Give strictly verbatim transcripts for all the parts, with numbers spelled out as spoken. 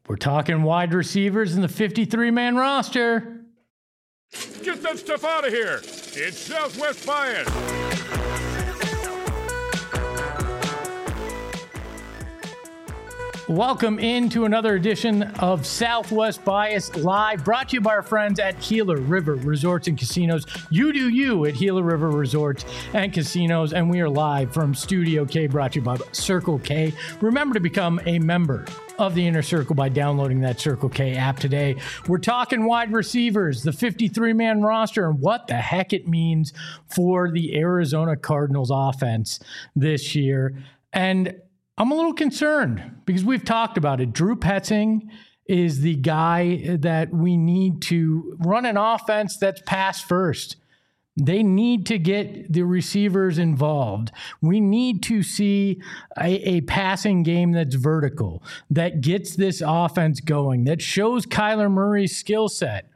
We're talking wide receivers in the fifty-three man roster. Get that stuff out of here. It's Southwest Bias. Welcome into another edition of Southwest Bias Live, brought to you by our friends at Gila River Resorts and Casinos. You do you at Gila River Resorts and Casinos, and we are live from Studio K, brought to you by Circle K. Remember to become a member of the Inner Circle by downloading that Circle K app today. We're talking wide receivers, the fifty-three man roster, and what the heck it means for the Arizona Cardinals offense this year. And I'm a little concerned because we've talked about it. Drew Petzing is the guy that we need to run an offense that's pass first. They need to get the receivers involved. We need to see a, a passing game that's vertical, that gets this offense going, that shows Kyler Murray's skill set.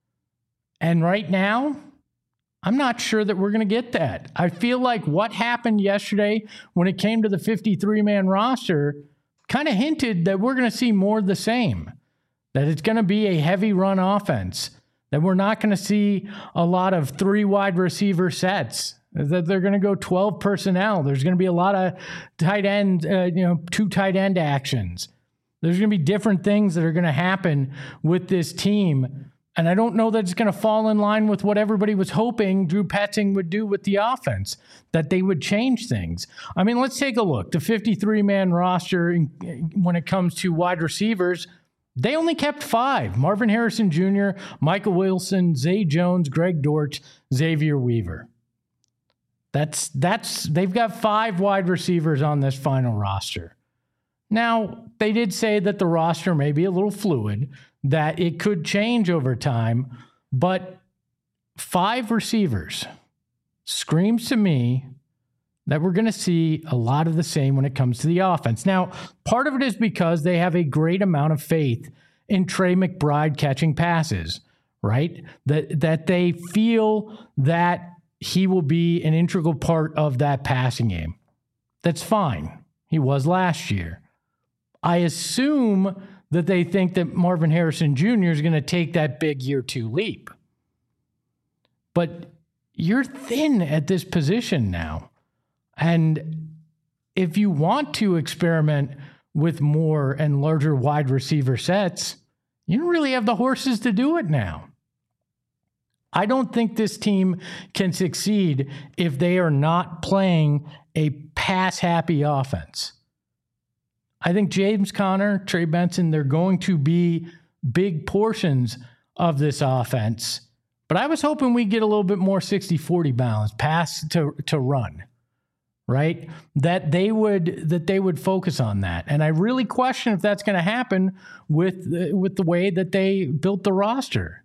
And right now, I'm not sure that we're going to get that. I feel like what happened yesterday when it came to the fifty-three man roster kind of hinted that we're going to see more of the same, that it's going to be a heavy run offense, that we're not going to see a lot of three wide receiver sets, that they're going to go twelve personnel. There's going to be a lot of tight end, uh, you know, two tight end actions. There's going to be different things that are going to happen with this team. And I don't know that it's going to fall in line with what everybody was hoping Drew Petzing would do with the offense, that they would change things. I mean, let's take a look. The fifty-three man roster, when it comes to wide receivers, they only kept five. Marvin Harrison Junior, Michael Wilson, Zay Jones, Greg Dortch, Xavier Weaver. That's, that's, they've got five wide receivers on this final roster. Now, they did say that the roster may be a little fluid, that it could change over time, but five receivers screams to me that we're going to see a lot of the same when it comes to the offense. Now, part of it is because they have a great amount of faith in Trey McBride catching passes, right? That, that they feel that he will be an integral part of that passing game. That's fine. He was last year. I assume that they think that Marvin Harrison Junior is going to take that big year two leap. But you're thin at this position now. And if you want to experiment with more and larger wide receiver sets, you don't really have the horses to do it now. I don't think this team can succeed if they are not playing a pass-happy offense. I think James Conner, Trey Benson, they're going to be big portions of this offense. But I was hoping we'd get a little bit more sixty forty balance, pass to, to run, right? That they would that they would focus on that. And I really question if that's going to happen with, with the way that they built the roster.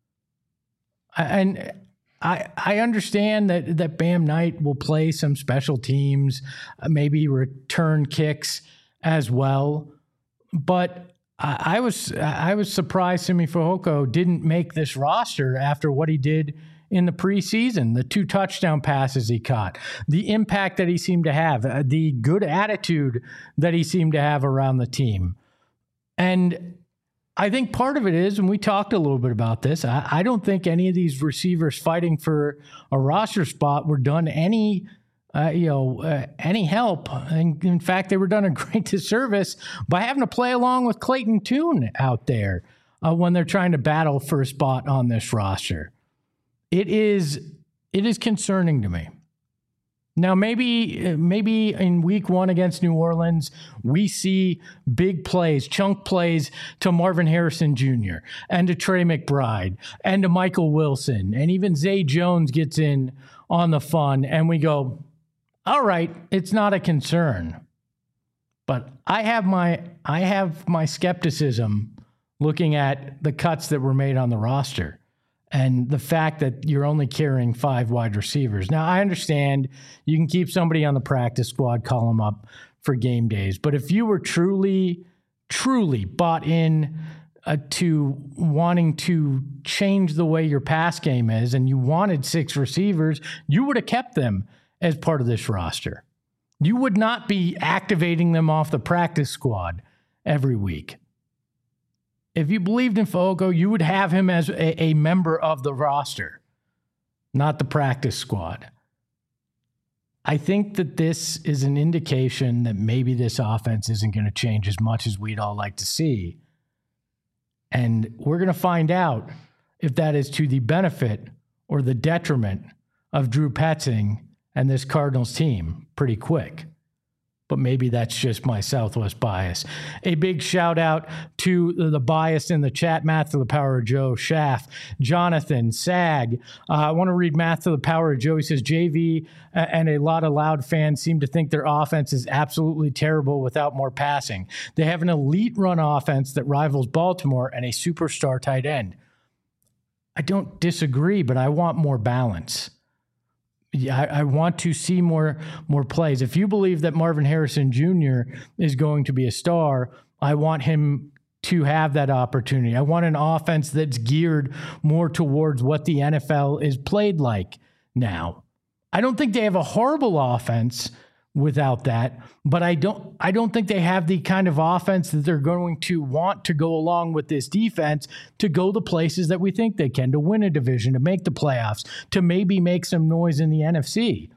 And I I understand that, that Bam Knight will play some special teams, maybe return kicks as well, but I, I was I was surprised Simi Fehoko didn't make this roster after what he did in the preseason, the two touchdown passes he caught, the impact that he seemed to have, uh, the good attitude that he seemed to have around the team. And I think part of it is, and we talked a little bit about this, I, I don't think any of these receivers fighting for a roster spot were done any Uh, you know, uh, any help. And in fact, they were done a great disservice by having to play along with Clayton Tune out there uh, when they're trying to battle for a spot on this roster. It is it is concerning to me. Now, maybe maybe in week one against New Orleans, we see big plays, chunk plays to Marvin Harrison Junior and to Trey McBride and to Michael Wilson, and even Zay Jones gets in on the fun, and we go, all right, it's not a concern. But I have my I have my skepticism looking at the cuts that were made on the roster and the fact that you're only carrying five wide receivers. Now, I understand you can keep somebody on the practice squad, call them up for game days. But if you were truly, truly bought in uh, to wanting to change the way your pass game is and you wanted six receivers, you would have kept them as part of this roster. You would not be activating them off the practice squad every week. If you believed in Fehoko, you would have him as a, a member of the roster, not the practice squad. I think that this is an indication that maybe this offense isn't going to change as much as we'd all like to see. And we're going to find out if that is to the benefit or the detriment of Drew Petzing and this Cardinals team pretty quick. But maybe that's just my Southwest bias. A big shout out to the bias in the chat, Math to the Power of Joe, Schaff, Jonathan, Sag. Uh, I want to read Math to the Power of Joe. He says, J V and a lot of Loud fans seem to think their offense is absolutely terrible without more passing. They have an elite run offense that rivals Baltimore and a superstar tight end. I don't disagree, but I want more balance. Yeah, I, I want to see more more plays. If you believe that Marvin Harrison Junior is going to be a star, I want him to have that opportunity. I want an offense that's geared more towards what the N F L is played like now. I don't think they have a horrible offense without that, but I don't I don't think they have the kind of offense that they're going to want to go along with this defense to go the places that we think they can, to win a division, to make the playoffs, to maybe make some noise in the N F C.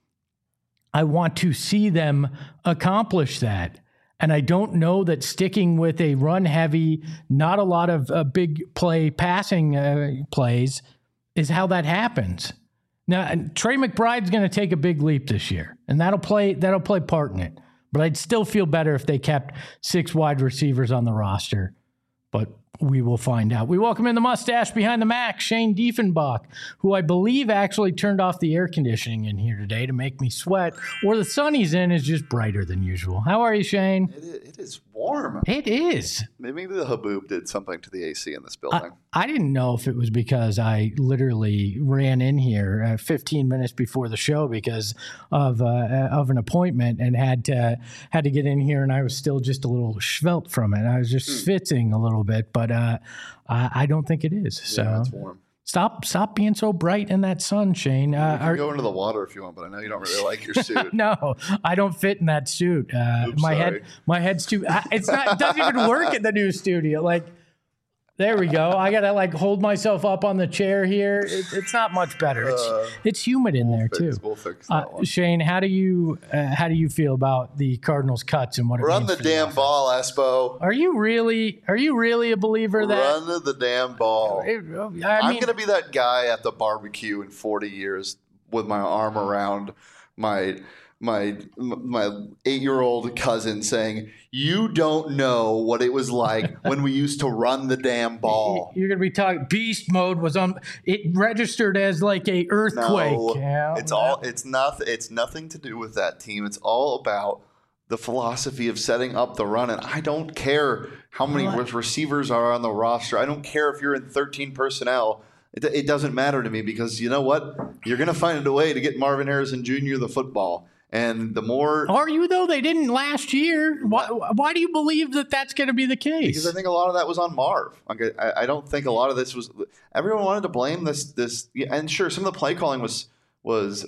I want to see them accomplish that. And I don't know that sticking with a run-heavy, not a lot of uh, big play passing uh, plays is how that happens. Now, Trey McBride's going to take a big leap this year, and that'll play that'll play part in it. But I'd still feel better if they kept six wide receivers on the roster. But we will find out. We welcome in the mustache behind the Mac, Shane Diefenbach, who I believe actually turned off the air conditioning in here today to make me sweat, or the sun he's in is just brighter than usual. How are you, Shane? It is, it is warm. It is. Maybe the Haboob did something to the A C in this building. I, I didn't know if it was because I literally ran in here uh, fifteen minutes before the show because of uh, of an appointment and had to had to get in here, and I was still just a little svelte from it. I was just mm. schwitzing a little bit, but uh, I, I don't think it is. So yeah, it's warm. Stop stop being so bright in that sun, Shane. Uh, you can are, go into the water if you want, but I know you don't really like your suit. No, I don't fit in that suit. Uh, Oops, my sorry. head, my head's too. It's not. It doesn't even work in the new studio. Like, there we go. I gotta like hold myself up on the chair here. It, it's not much better. It's Uh, it's humid in there fix, too. We'll fix Uh, that one. Shane, how do you uh, how do you feel about the Cardinals cuts and what it Run means the for damn offense? ball, Espo. Are you really are you really a believer that? Run the damn ball. I mean, I'm going to be that guy at the barbecue in forty years with my arm around my my my eight-year-old cousin saying, "You don't know what it was like when we used to run the damn ball." You're going to be talking beast mode was on it registered as like a earthquake. No, Yeah, it's all it's not it's nothing to do with that team. It's all about the philosophy of setting up the run. And I don't care how many What? receivers are on the roster. I don't care if you're in thirteen personnel. It, it doesn't matter to me because you know what? You're going to find a way to get Marvin Harrison Junior the football. And the more Are you though? They didn't last year. Why, why do you believe that that's going to be the case? because I think a lot of that was on Marv. Like, I, I don't think a lot of this was. Everyone wanted to blame this. This and sure, some of the play calling was was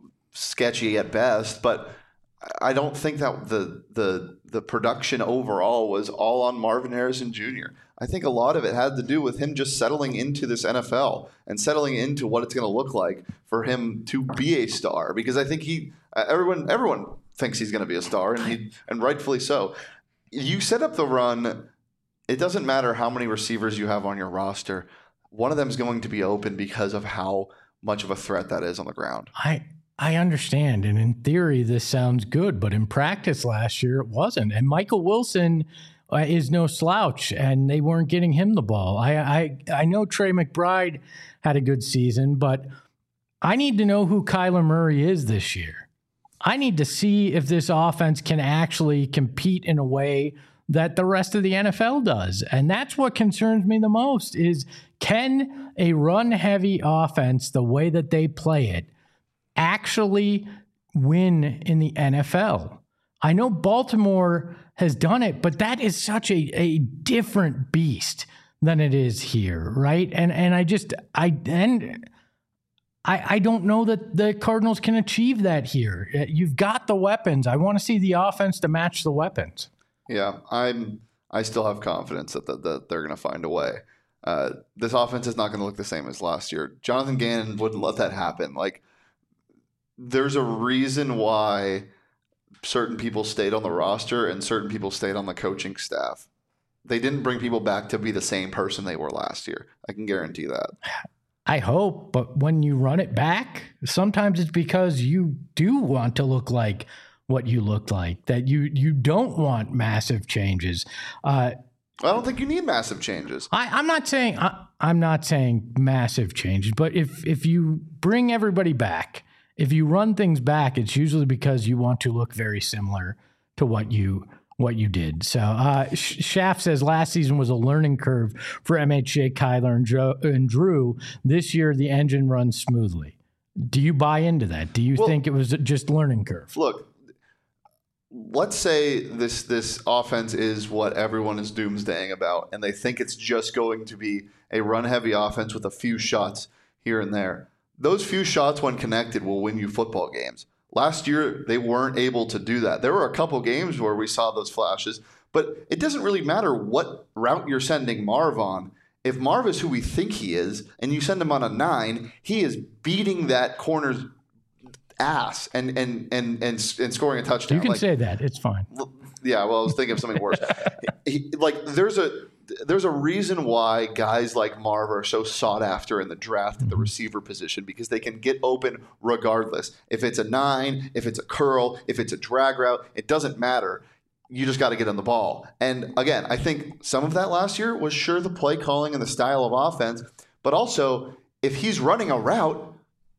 sketchy at best, but I don't think that the the the production overall was all on Marvin Harrison Junior I think a lot of it had to do with him just settling into this N F L and settling into what it's going to look like for him to be a star. Because I think he, everyone, everyone thinks he's going to be a star, and he, and rightfully so. You set up the run. It doesn't matter how many receivers you have on your roster. One of them is going to be open because of how much of a threat that is on the ground. I I understand, and in theory, this sounds good, but in practice last year, it wasn't. And Michael Wilson uh, is no slouch, and they weren't getting him the ball. I, I I know Trey McBride had a good season, but I need to know who Kyler Murray is this year. I need to see if this offense can actually compete in a way that the rest of the N F L does. And that's what concerns me the most is, can a run-heavy offense, the way that they play it, actually win in the N F L? I know Baltimore has done it, but that is such a, a different beast than it is here, right? And and I just I and I I don't know that the Cardinals can achieve that here. You've got the weapons. I want to see the offense to match the weapons. Yeah, I'm I still have confidence that, that, that they're going to find a way. Uh, this offense is not going to look the same as last year. Jonathan Gannon wouldn't let that happen. Like, there's a reason why certain people stayed on the roster and certain people stayed on the coaching staff. They didn't bring people back to be the same person they were last year. I can guarantee that. I hope, but when you run it back, sometimes it's because you do want to look like what you looked like, that you you don't want massive changes. Uh, I don't think you need massive changes. I, I'm not saying I, I'm not saying massive changes, but if if you bring everybody back, if you run things back, it's usually because you want to look very similar to what you what you did. So uh, Shaft says last season was a learning curve for M H J, Kyler, and, Joe, and Drew. This year, the engine runs smoothly. Do you buy into that? Do you well, think it was just learning curve? Look, let's say this this offense is what everyone is doomsdaying about, and they think it's just going to be a run-heavy offense with a few shots here and there. Those few shots, when connected, will win you football games. Last year, they weren't able to do that. There were a couple games where we saw those flashes, but it doesn't really matter what route you're sending Marv on. If Marv is who we think he is, and you send him on a nine, he is beating that corner's ass and and and and, and scoring a touchdown. You can like, say that. It's fine. Yeah, well, I was thinking of something worse. he, like, there's a there's a reason why guys like Marv are so sought after in the draft at the receiver position, because they can get open regardless. If it's a nine, if it's a curl, if it's a drag route, it doesn't matter. You just got to get on the ball. And again, I think some of that last year was sure the play calling and the style of offense, but also if he's running a route,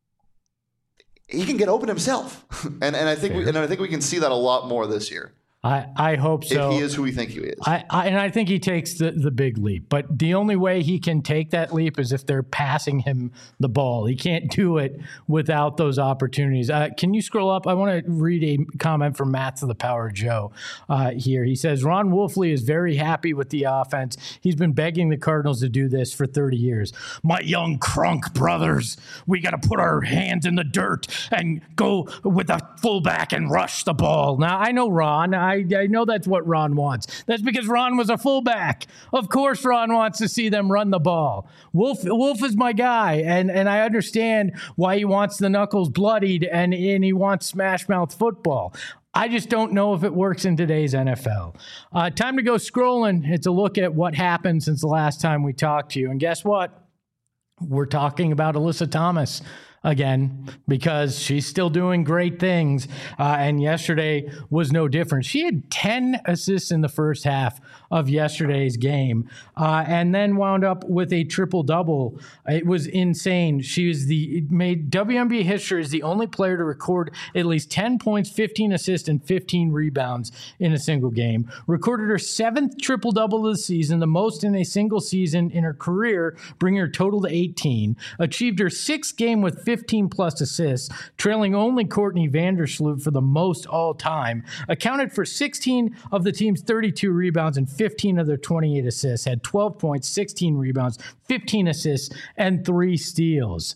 he can get open himself. and and I think we, and I think we can see that a lot more this year. I, I hope so. If he is who we think he is. I, I, and I think he takes the, the big leap. But the only way he can take that leap is if they're passing him the ball. He can't do it without those opportunities. Uh, can you scroll up? I want to read a comment from Matt to the Power Joe uh, here. He says, Ron Wolfley is very happy with the offense. He's been begging the Cardinals to do this for thirty years. My young crunk brothers, we got to put our hands in the dirt and go with a fullback and rush the ball. Now, I know Ron. I I, I know that's what Ron wants. That's because Ron was a fullback. Of course, Ron wants to see them run the ball. Wolf, Wolf is my guy, and, and I understand why he wants the knuckles bloodied and, and he wants smash mouth football. I just don't know if it works in today's N F L. Uh, time to go scrolling. It's a look at what happened since the last time we talked to you. And guess what? We're talking about Alyssa Thomas again, because she's still doing great things. Uh, and yesterday was no different. She had ten assists in the first half of yesterday's game, uh, and then wound up with a triple-double. It was insane. She was the it made W N B A history as the only player to record at least ten points, fifteen assists, and fifteen rebounds in a single game. Recorded her seventh triple-double of the season, the most in a single season in her career, bringing her total to eighteen. Achieved her sixth game with fifteen plus assists, trailing only Courtney Vandersloot for the most all time. Accounted for sixteen of the team's thirty-two rebounds and fifteen of their twenty-eight assists. Had twelve points, sixteen rebounds, fifteen assists, and three steals.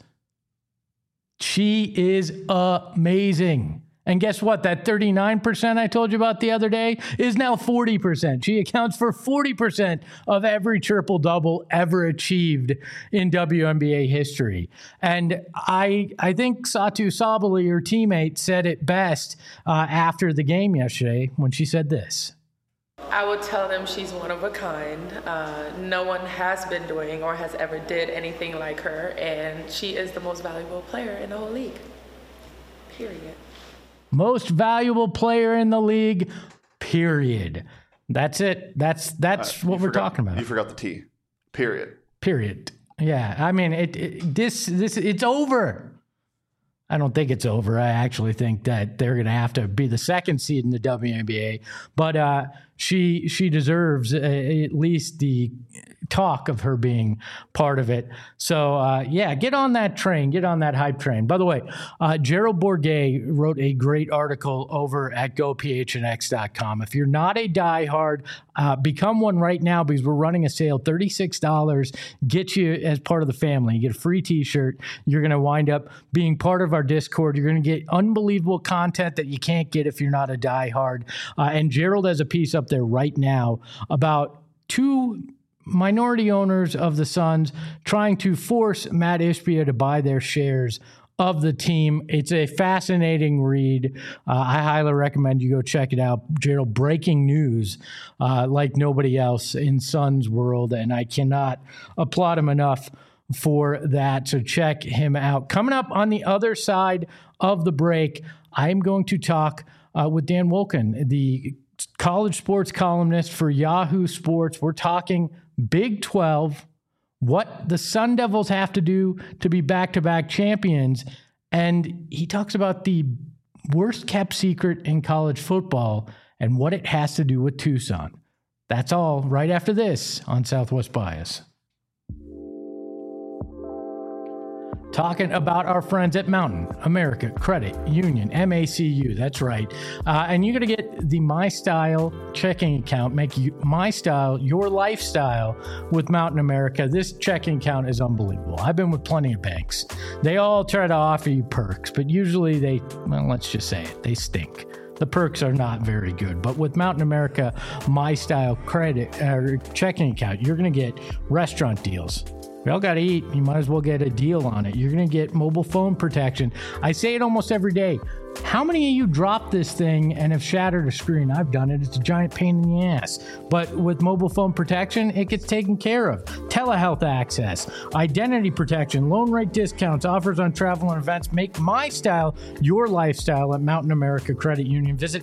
She is amazing. And guess what? That thirty-nine percent I told you about the other day is now forty percent. She accounts for forty percent of every triple-double ever achieved in W N B A history. And I I think Satu Sabali, her teammate, said it best uh, after the game yesterday when she said this. I would tell them she's one of a kind. Uh, no one has been doing or has ever did anything like her, and she is the most valuable player in the whole league. Period. Most valuable player in the league, period. That's it. That's that's uh, what we're forgot, talking about. You forgot the T. Period. Period. Yeah. I mean, it, it this this it's over. I don't think it's over. I actually think that they're going to have to be the second seed in the W N B A. But uh, she she deserves uh, at least the talk of her being part of it. So, uh, yeah, get on that train. Get on that hype train. By the way, uh, Gerald Bourguet wrote a great article over at go p h n x dot com. If you're not a diehard, uh, become one right now because we're running a sale. thirty-six dollars gets you as part of the family. You get a free t-shirt. You're going to wind up being part of our Discord. You're going to get unbelievable content that you can't get if you're not a diehard. Uh, and Gerald has a piece up there right now about two minority owners of the Suns trying to force Matt Ishbia to buy their shares of the team. It's a fascinating read. Uh, I highly recommend you go check it out. Gerald, breaking news uh, like nobody else in Suns world, and I cannot applaud him enough for that. So check him out. Coming up on the other side of the break, I am going to talk uh, with Dan Wolken, the college sports columnist for Yahoo Sports. We're talking Big twelve, what the Sun Devils have to do to be back-to-back champions. And he talks about the worst kept secret in college football and what it has to do with Tucson. That's all right after this on Southwest Bias. Talking about our friends at Mountain America Credit Union, M A C U. That's right. Uh, and you're going to get the My Style checking account. Make you, My Style your lifestyle with Mountain America. This checking account is unbelievable. I've been with plenty of banks. They all try to offer you perks, but usually they, well, let's just say it, they stink. The perks are not very good. But with Mountain America My Style credit uh, checking account, you're going to get restaurant deals. We all got to eat. You might as well get a deal on it. You're going to get mobile phone protection. I say it almost every day. How many of you dropped this thing and have shattered a screen? I've done it. It's a giant pain in the ass. But with mobile phone protection, it gets taken care of. Telehealth access, identity protection, loan rate discounts, offers on travel and events. Make My Style your lifestyle at Mountain America Credit Union. Visit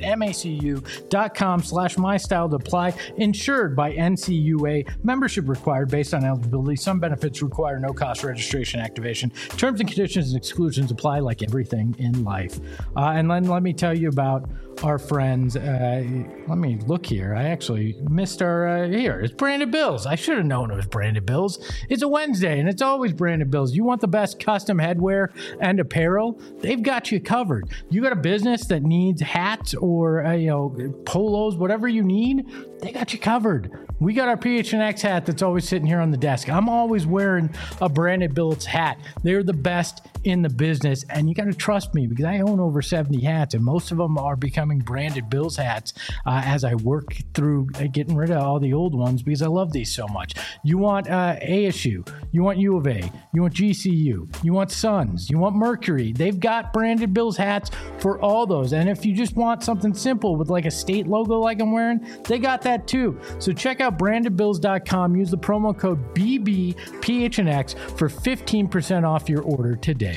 macu.com slash MyStyle to apply. Insured by N C U A. Membership required based on eligibility. Some benefits require no cost registration activation. Terms and conditions and exclusions apply like everything in life. Uh, and then let me tell you about our friends. Uh, let me look here. I actually missed our, uh, here, it's Branded Bills. I should have known it was Branded Bills. It's a Wednesday and it's always Branded Bills. You want the best custom headwear and apparel? They've got you covered. You got a business that needs hats or, uh, you know, polos, whatever you need, they got you covered. We got our P H N X hat that's always sitting here on the desk. I'm always wearing a Branded Bills hat. They're the best in the business, and you got to trust me because I own over seventy hats, and most of them are becoming Branded Bills hats uh, as I work through uh, getting rid of all the old ones because I love these so much. You want uh, A S U, you want U of A, you want G C U, you want Suns, you want Mercury. They've got Branded Bills hats for all those, and if you just want something simple with like a state logo like I'm wearing, they got that too. So check out branded bills dot com. Use the promo code B B P H N X for fifteen percent off your order today.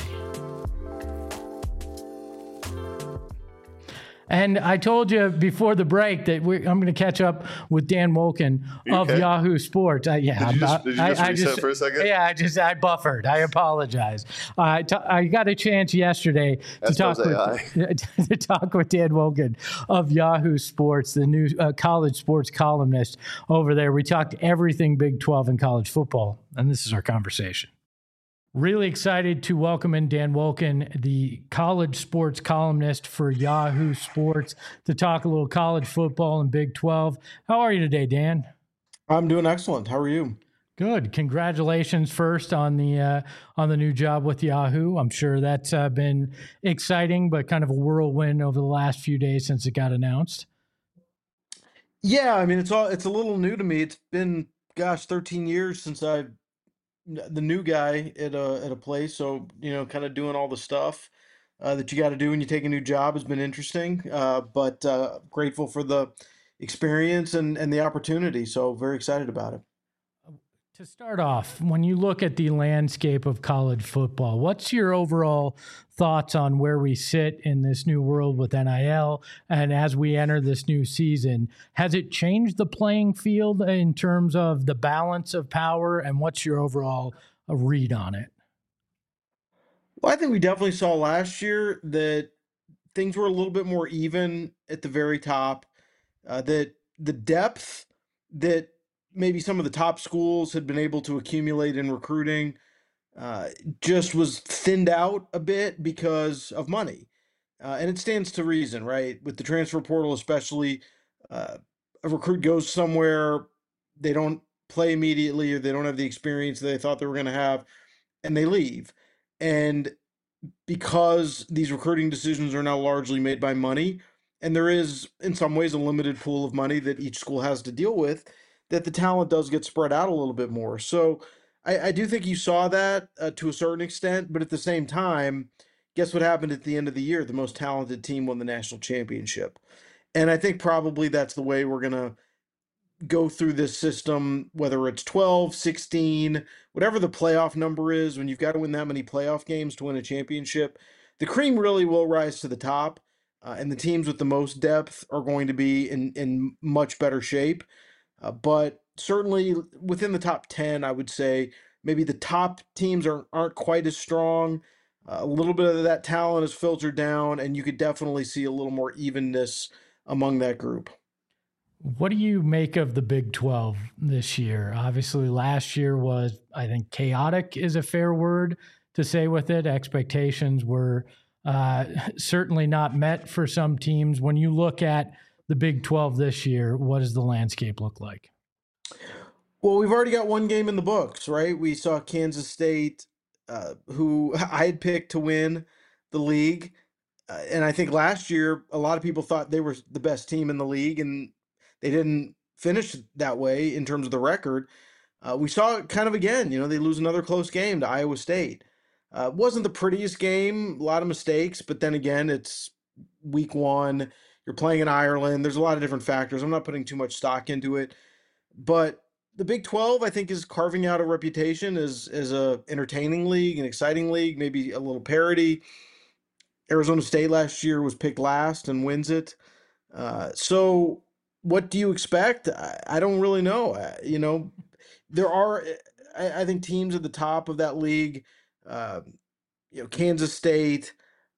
And I told you before the break that we're, I'm going to catch up with Dan Wolken of okay? Yahoo Sports. Uh, yeah, did you just, I, did you just I, reset I just, for a second? Yeah, I just I buffered. I apologize. Uh, t- I got a chance yesterday to talk with, to talk with Dan Wolken of Yahoo Sports, the new uh, college sports columnist over there. We talked everything Big twelve and college football, and this is our conversation. Really excited to welcome in Dan Wolken, the college sports columnist for Yahoo Sports, to talk a little college football and Big twelve. How are you today, Dan? I'm doing excellent. How are you? Good. Congratulations first on the uh, on the new job with Yahoo. I'm sure that's uh, been exciting, but kind of a whirlwind over the last few days since it got announced. Yeah, I mean, it's all it's a little new to me. It's been, gosh, thirteen years since I've the new guy at a at a place, so you know, kind of doing all the stuff uh, that you got to do when you take a new job has been interesting. Uh, but uh, grateful for the experience and and the opportunity. So very excited about it. To start off, when you look at the landscape of college football, what's your overall thoughts on where we sit in this new world with N I L? And as we enter this new season, has it changed the playing field in terms of the balance of power? And what's your overall uh, read on it? Well, I think we definitely saw last year that things were a little bit more even at the very top, uh, that the depth that maybe some of the top schools had been able to accumulate in recruiting uh, just was thinned out a bit because of money. Uh, and it stands to reason, right? With the transfer portal, especially, uh, a recruit goes somewhere, they don't play immediately, or they don't have the experience they thought they were going to have, and they leave. And because these recruiting decisions are now largely made by money, and there is, in some ways, a limited pool of money that each school has to deal with, that the talent does get spread out a little bit more. So I, I do think you saw that uh, to a certain extent, but at the same time, guess what happened at the end of the year? The most talented team won the national championship. And I think probably that's the way we're going to go through this system, whether it's twelve, sixteen, whatever the playoff number is, when you've got to win that many playoff games to win a championship, the cream really will rise to the top. Uh, and the teams with the most depth are going to be in, in much better shape. Uh, but certainly within the top ten, I would say maybe the top teams aren't, aren't quite as strong. Uh, a little bit of that talent is filtered down, and you could definitely see a little more evenness among that group. What do you make of the Big twelve this year? Obviously, last year was, I think, chaotic is a fair word to say with it. Expectations were uh, certainly not met for some teams. When you look at the Big twelve this year, what does the landscape look like? Well, we've already got one game in the books, right? We saw Kansas State, uh, who I had picked to win the league. Uh, and I think last year, a lot of people thought they were the best team in the league, and they didn't finish that way in terms of the record. Uh, we saw it kind of again. You know, they lose another close game to Iowa State. Uh, wasn't the prettiest game, a lot of mistakes, but then again, it's week one. You're playing in Ireland. There's a lot of different factors. I'm not putting too much stock into it. But the Big twelve, I think, is carving out a reputation as, as a entertaining league, an exciting league, maybe a little parity. Arizona State last year was picked last and wins it. Uh, so what do you expect? I, I don't really know. Uh, you know, there are, I, I think, teams at the top of that league, uh, you know, Kansas State,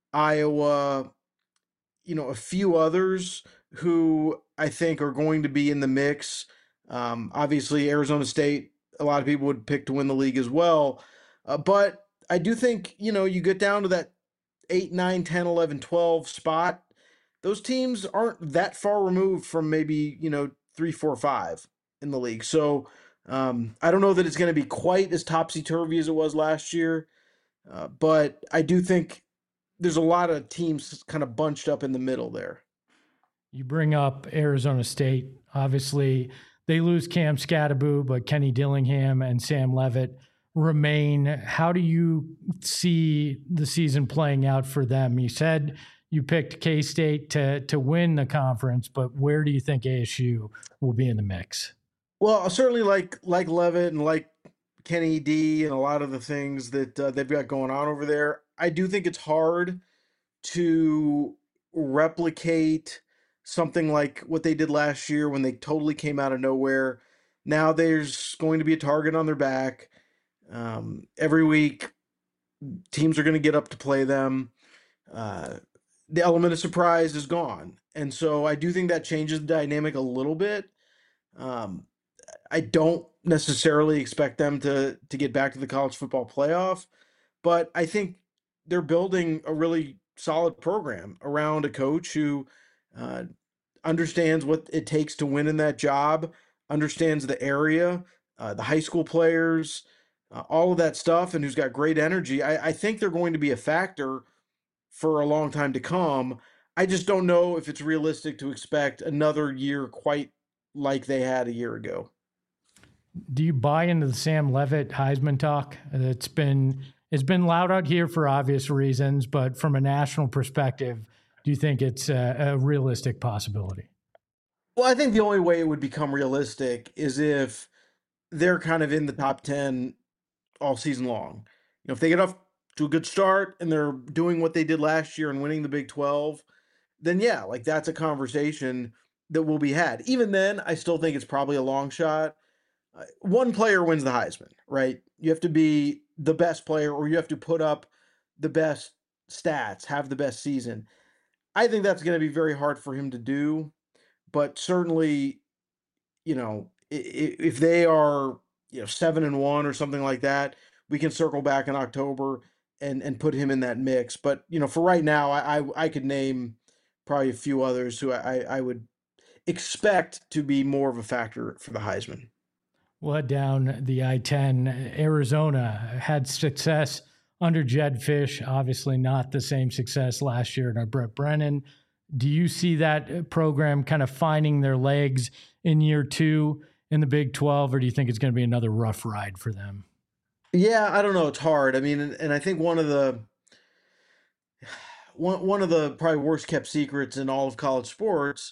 Iowa, you know, a few others who I think are going to be in the mix. Um, obviously, Arizona State, a lot of people would pick to win the league as well. Uh, but I do think, you know, you get down to that eight, nine, ten, eleven, twelve spot, those teams aren't that far removed from maybe, you know, three, four, five in the league. So um, I don't know that it's going to be quite as topsy-turvy as it was last year, uh, but I do think there's a lot of teams kind of bunched up in the middle there. You bring up Arizona State. Obviously, they lose Cam Scatterbo, but Kenny Dillingham and Sam Levitt remain. How do you see the season playing out for them? You said you picked K-State to to win the conference, but where do you think A S U will be in the mix? Well, certainly like like Levitt and like Kenny D and a lot of the things that uh, they've got going on over there. I do think it's hard to replicate something like what they did last year when they totally came out of nowhere. Now there's going to be a target on their back. Um, every week, teams are going to get up to play them. Uh, the element of surprise is gone. And so I do think that changes the dynamic a little bit. Um, I don't necessarily expect them to to get back to the college football playoff, but I think they're building a really solid program around a coach who uh, understands what it takes to win in that job, understands the area, uh, the high school players, uh, all of that stuff, and who's got great energy. I, I think they're going to be a factor for a long time to come. I just don't know if it's realistic to expect another year quite like they had a year ago. Do you buy into the Sam Levitt Heisman talk? It's been it's been loud out here for obvious reasons, but from a national perspective, do you think it's a, a realistic possibility? Well, I think the only way it would become realistic is if they're kind of in the top ten all season long. You know, if they get off to a good start and they're doing what they did last year and winning the Big twelve, then yeah, like that's a conversation that will be had. Even then, I still think it's probably a long shot. Uh, one player wins the Heisman, right? You have to be the best player, or you have to put up the best stats, have the best season. I think that's going to be very hard for him to do, but certainly, you know, if they are, you know, seven and one or something like that, we can circle back in October and and put him in that mix. But you know, for right now, I I, I could name probably a few others who I I would expect to be more of a factor for the Heisman. We'll head down the I ten. Arizona had success under Jedd Fisch, obviously not the same success last year under Brent Brennan. Do you see that program kind of finding their legs in year two in the Big twelve, or do you think it's going to be another rough ride for them? Yeah, I don't know. It's hard. I mean, and, and I think one of the one one of the probably worst kept secrets in all of college sports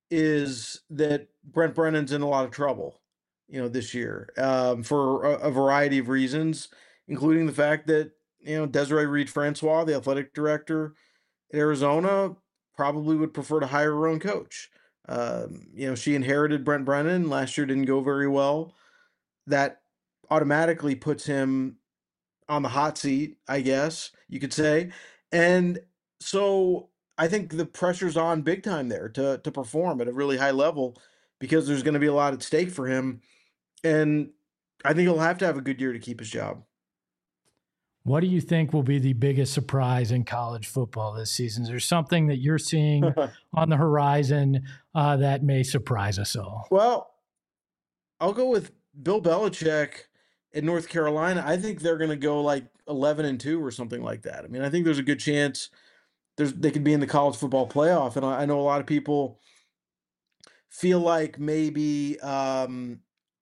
is that Brent Brennan's in a lot of trouble, you know, this year um, for a, a variety of reasons, including the fact that, you know, Desiree Reed-Francois, the athletic director at Arizona, probably would prefer to hire her own coach. Um, you know, she inherited Brent Brennan. Last year didn't go very well. That automatically puts him on the hot seat, I guess you could say. And so I think the pressure's on big time there to to perform at a really high level because there's going to be a lot at stake for him. And I think he'll have to have a good year to keep his job. What do you think will be the biggest surprise in college football this season? Is there something that you're seeing on the horizon uh, that may surprise us all? Well, I'll go with Bill Belichick in North Carolina. I think they're going to go like eleven and two or something like that. I mean, I think there's a good chance there's they could be in the college football playoff. And I, I know a lot of people feel like maybe, um,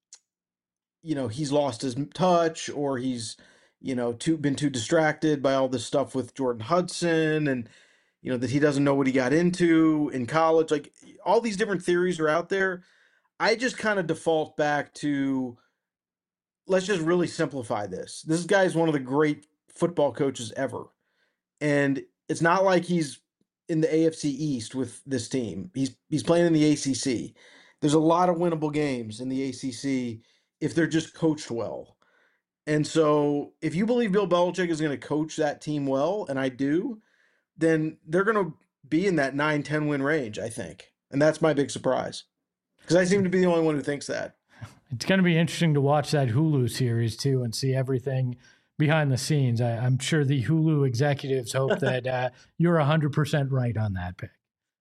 you know, he's lost his touch or he's, you know, too been too distracted by all this stuff with Jordan Hudson and, you know, that he doesn't know what he got into in college. Like all these different theories are out there. I just kind of default back to, let's just really simplify this. This guy is one of the great football coaches ever. And it's not like he's in the A F C East with this team. He's he's playing in the A C C. There's a lot of winnable games in the A C C if they're just coached well. And so if you believe Bill Belichick is going to coach that team well, and I do, then they're going to be in that nine ten win range, I think. And that's my big surprise. Because I seem to be the only one who thinks that. It's going to be interesting to watch that Hulu series, too, and see everything behind the scenes. I, I'm sure the Hulu executives hope that uh, you're one hundred percent right on that pick.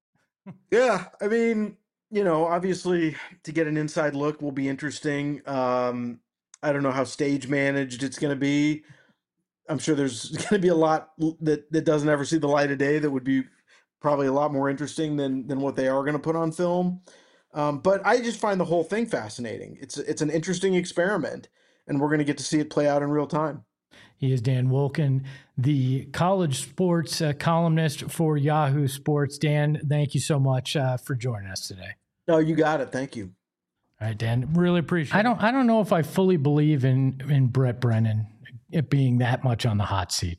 Yeah, I mean, you know, obviously to get an inside look will be interesting. Um, I don't know how stage managed it's going to be. I'm sure there's going to be a lot that, that doesn't ever see the light of day that would be probably a lot more interesting than than what they are going to put on film. Um, but I just find the whole thing fascinating. It's it's an interesting experiment, and we're going to get to see it play out in real time. He is Dan Wolken, the college sports uh, columnist for Yahoo Sports. Dan, thank you so much uh, for joining us today. No, you got it. Thank you. All right, Dan, really appreciate it. I don't, I don't know if I fully believe in, in Brent Brennan it being that much on the hot seat.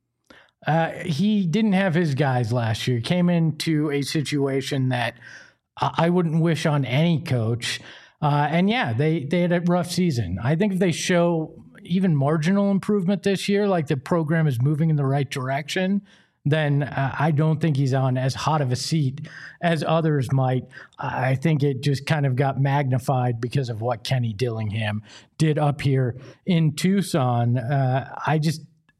Uh, he didn't have his guys last year. He came into a situation that I wouldn't wish on any coach. Uh, and yeah, they, they had a rough season. I think if they show even marginal improvement this year, like the program is moving in the right direction, then uh, I don't think he's on as hot of a seat as others might. I think it just kind of got magnified because of what Kenny Dillingham did up here in Tucson. Uh, I just,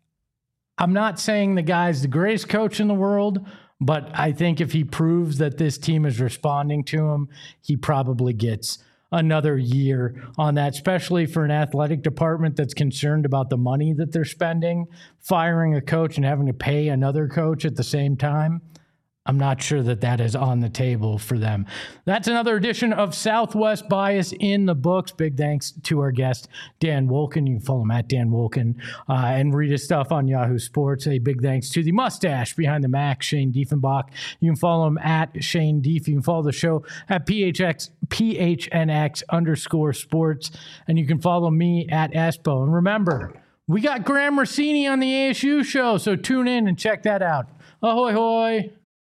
I'm not saying the guy's the greatest coach in the world, but I think if he proves that this team is responding to him, he probably gets another year on that, especially for an athletic department that's concerned about the money that they're spending. Firing a coach and having to pay another coach at the same time, I'm not sure that that is on the table for them. That's another edition of Southwest Bias in the books. Big thanks to our guest, Dan Wolken. You can follow him at Dan Wolken uh, and read his stuff on Yahoo Sports. A big thanks to the mustache behind the Mac, Shane Diefenbach. You can follow him at Shane Dief. You can follow the show at P H X, P H N X underscore sports. And you can follow me at Espo. And remember, we got Graham Rossini on the A S U show, so tune in and check that out. Ahoy, hoy.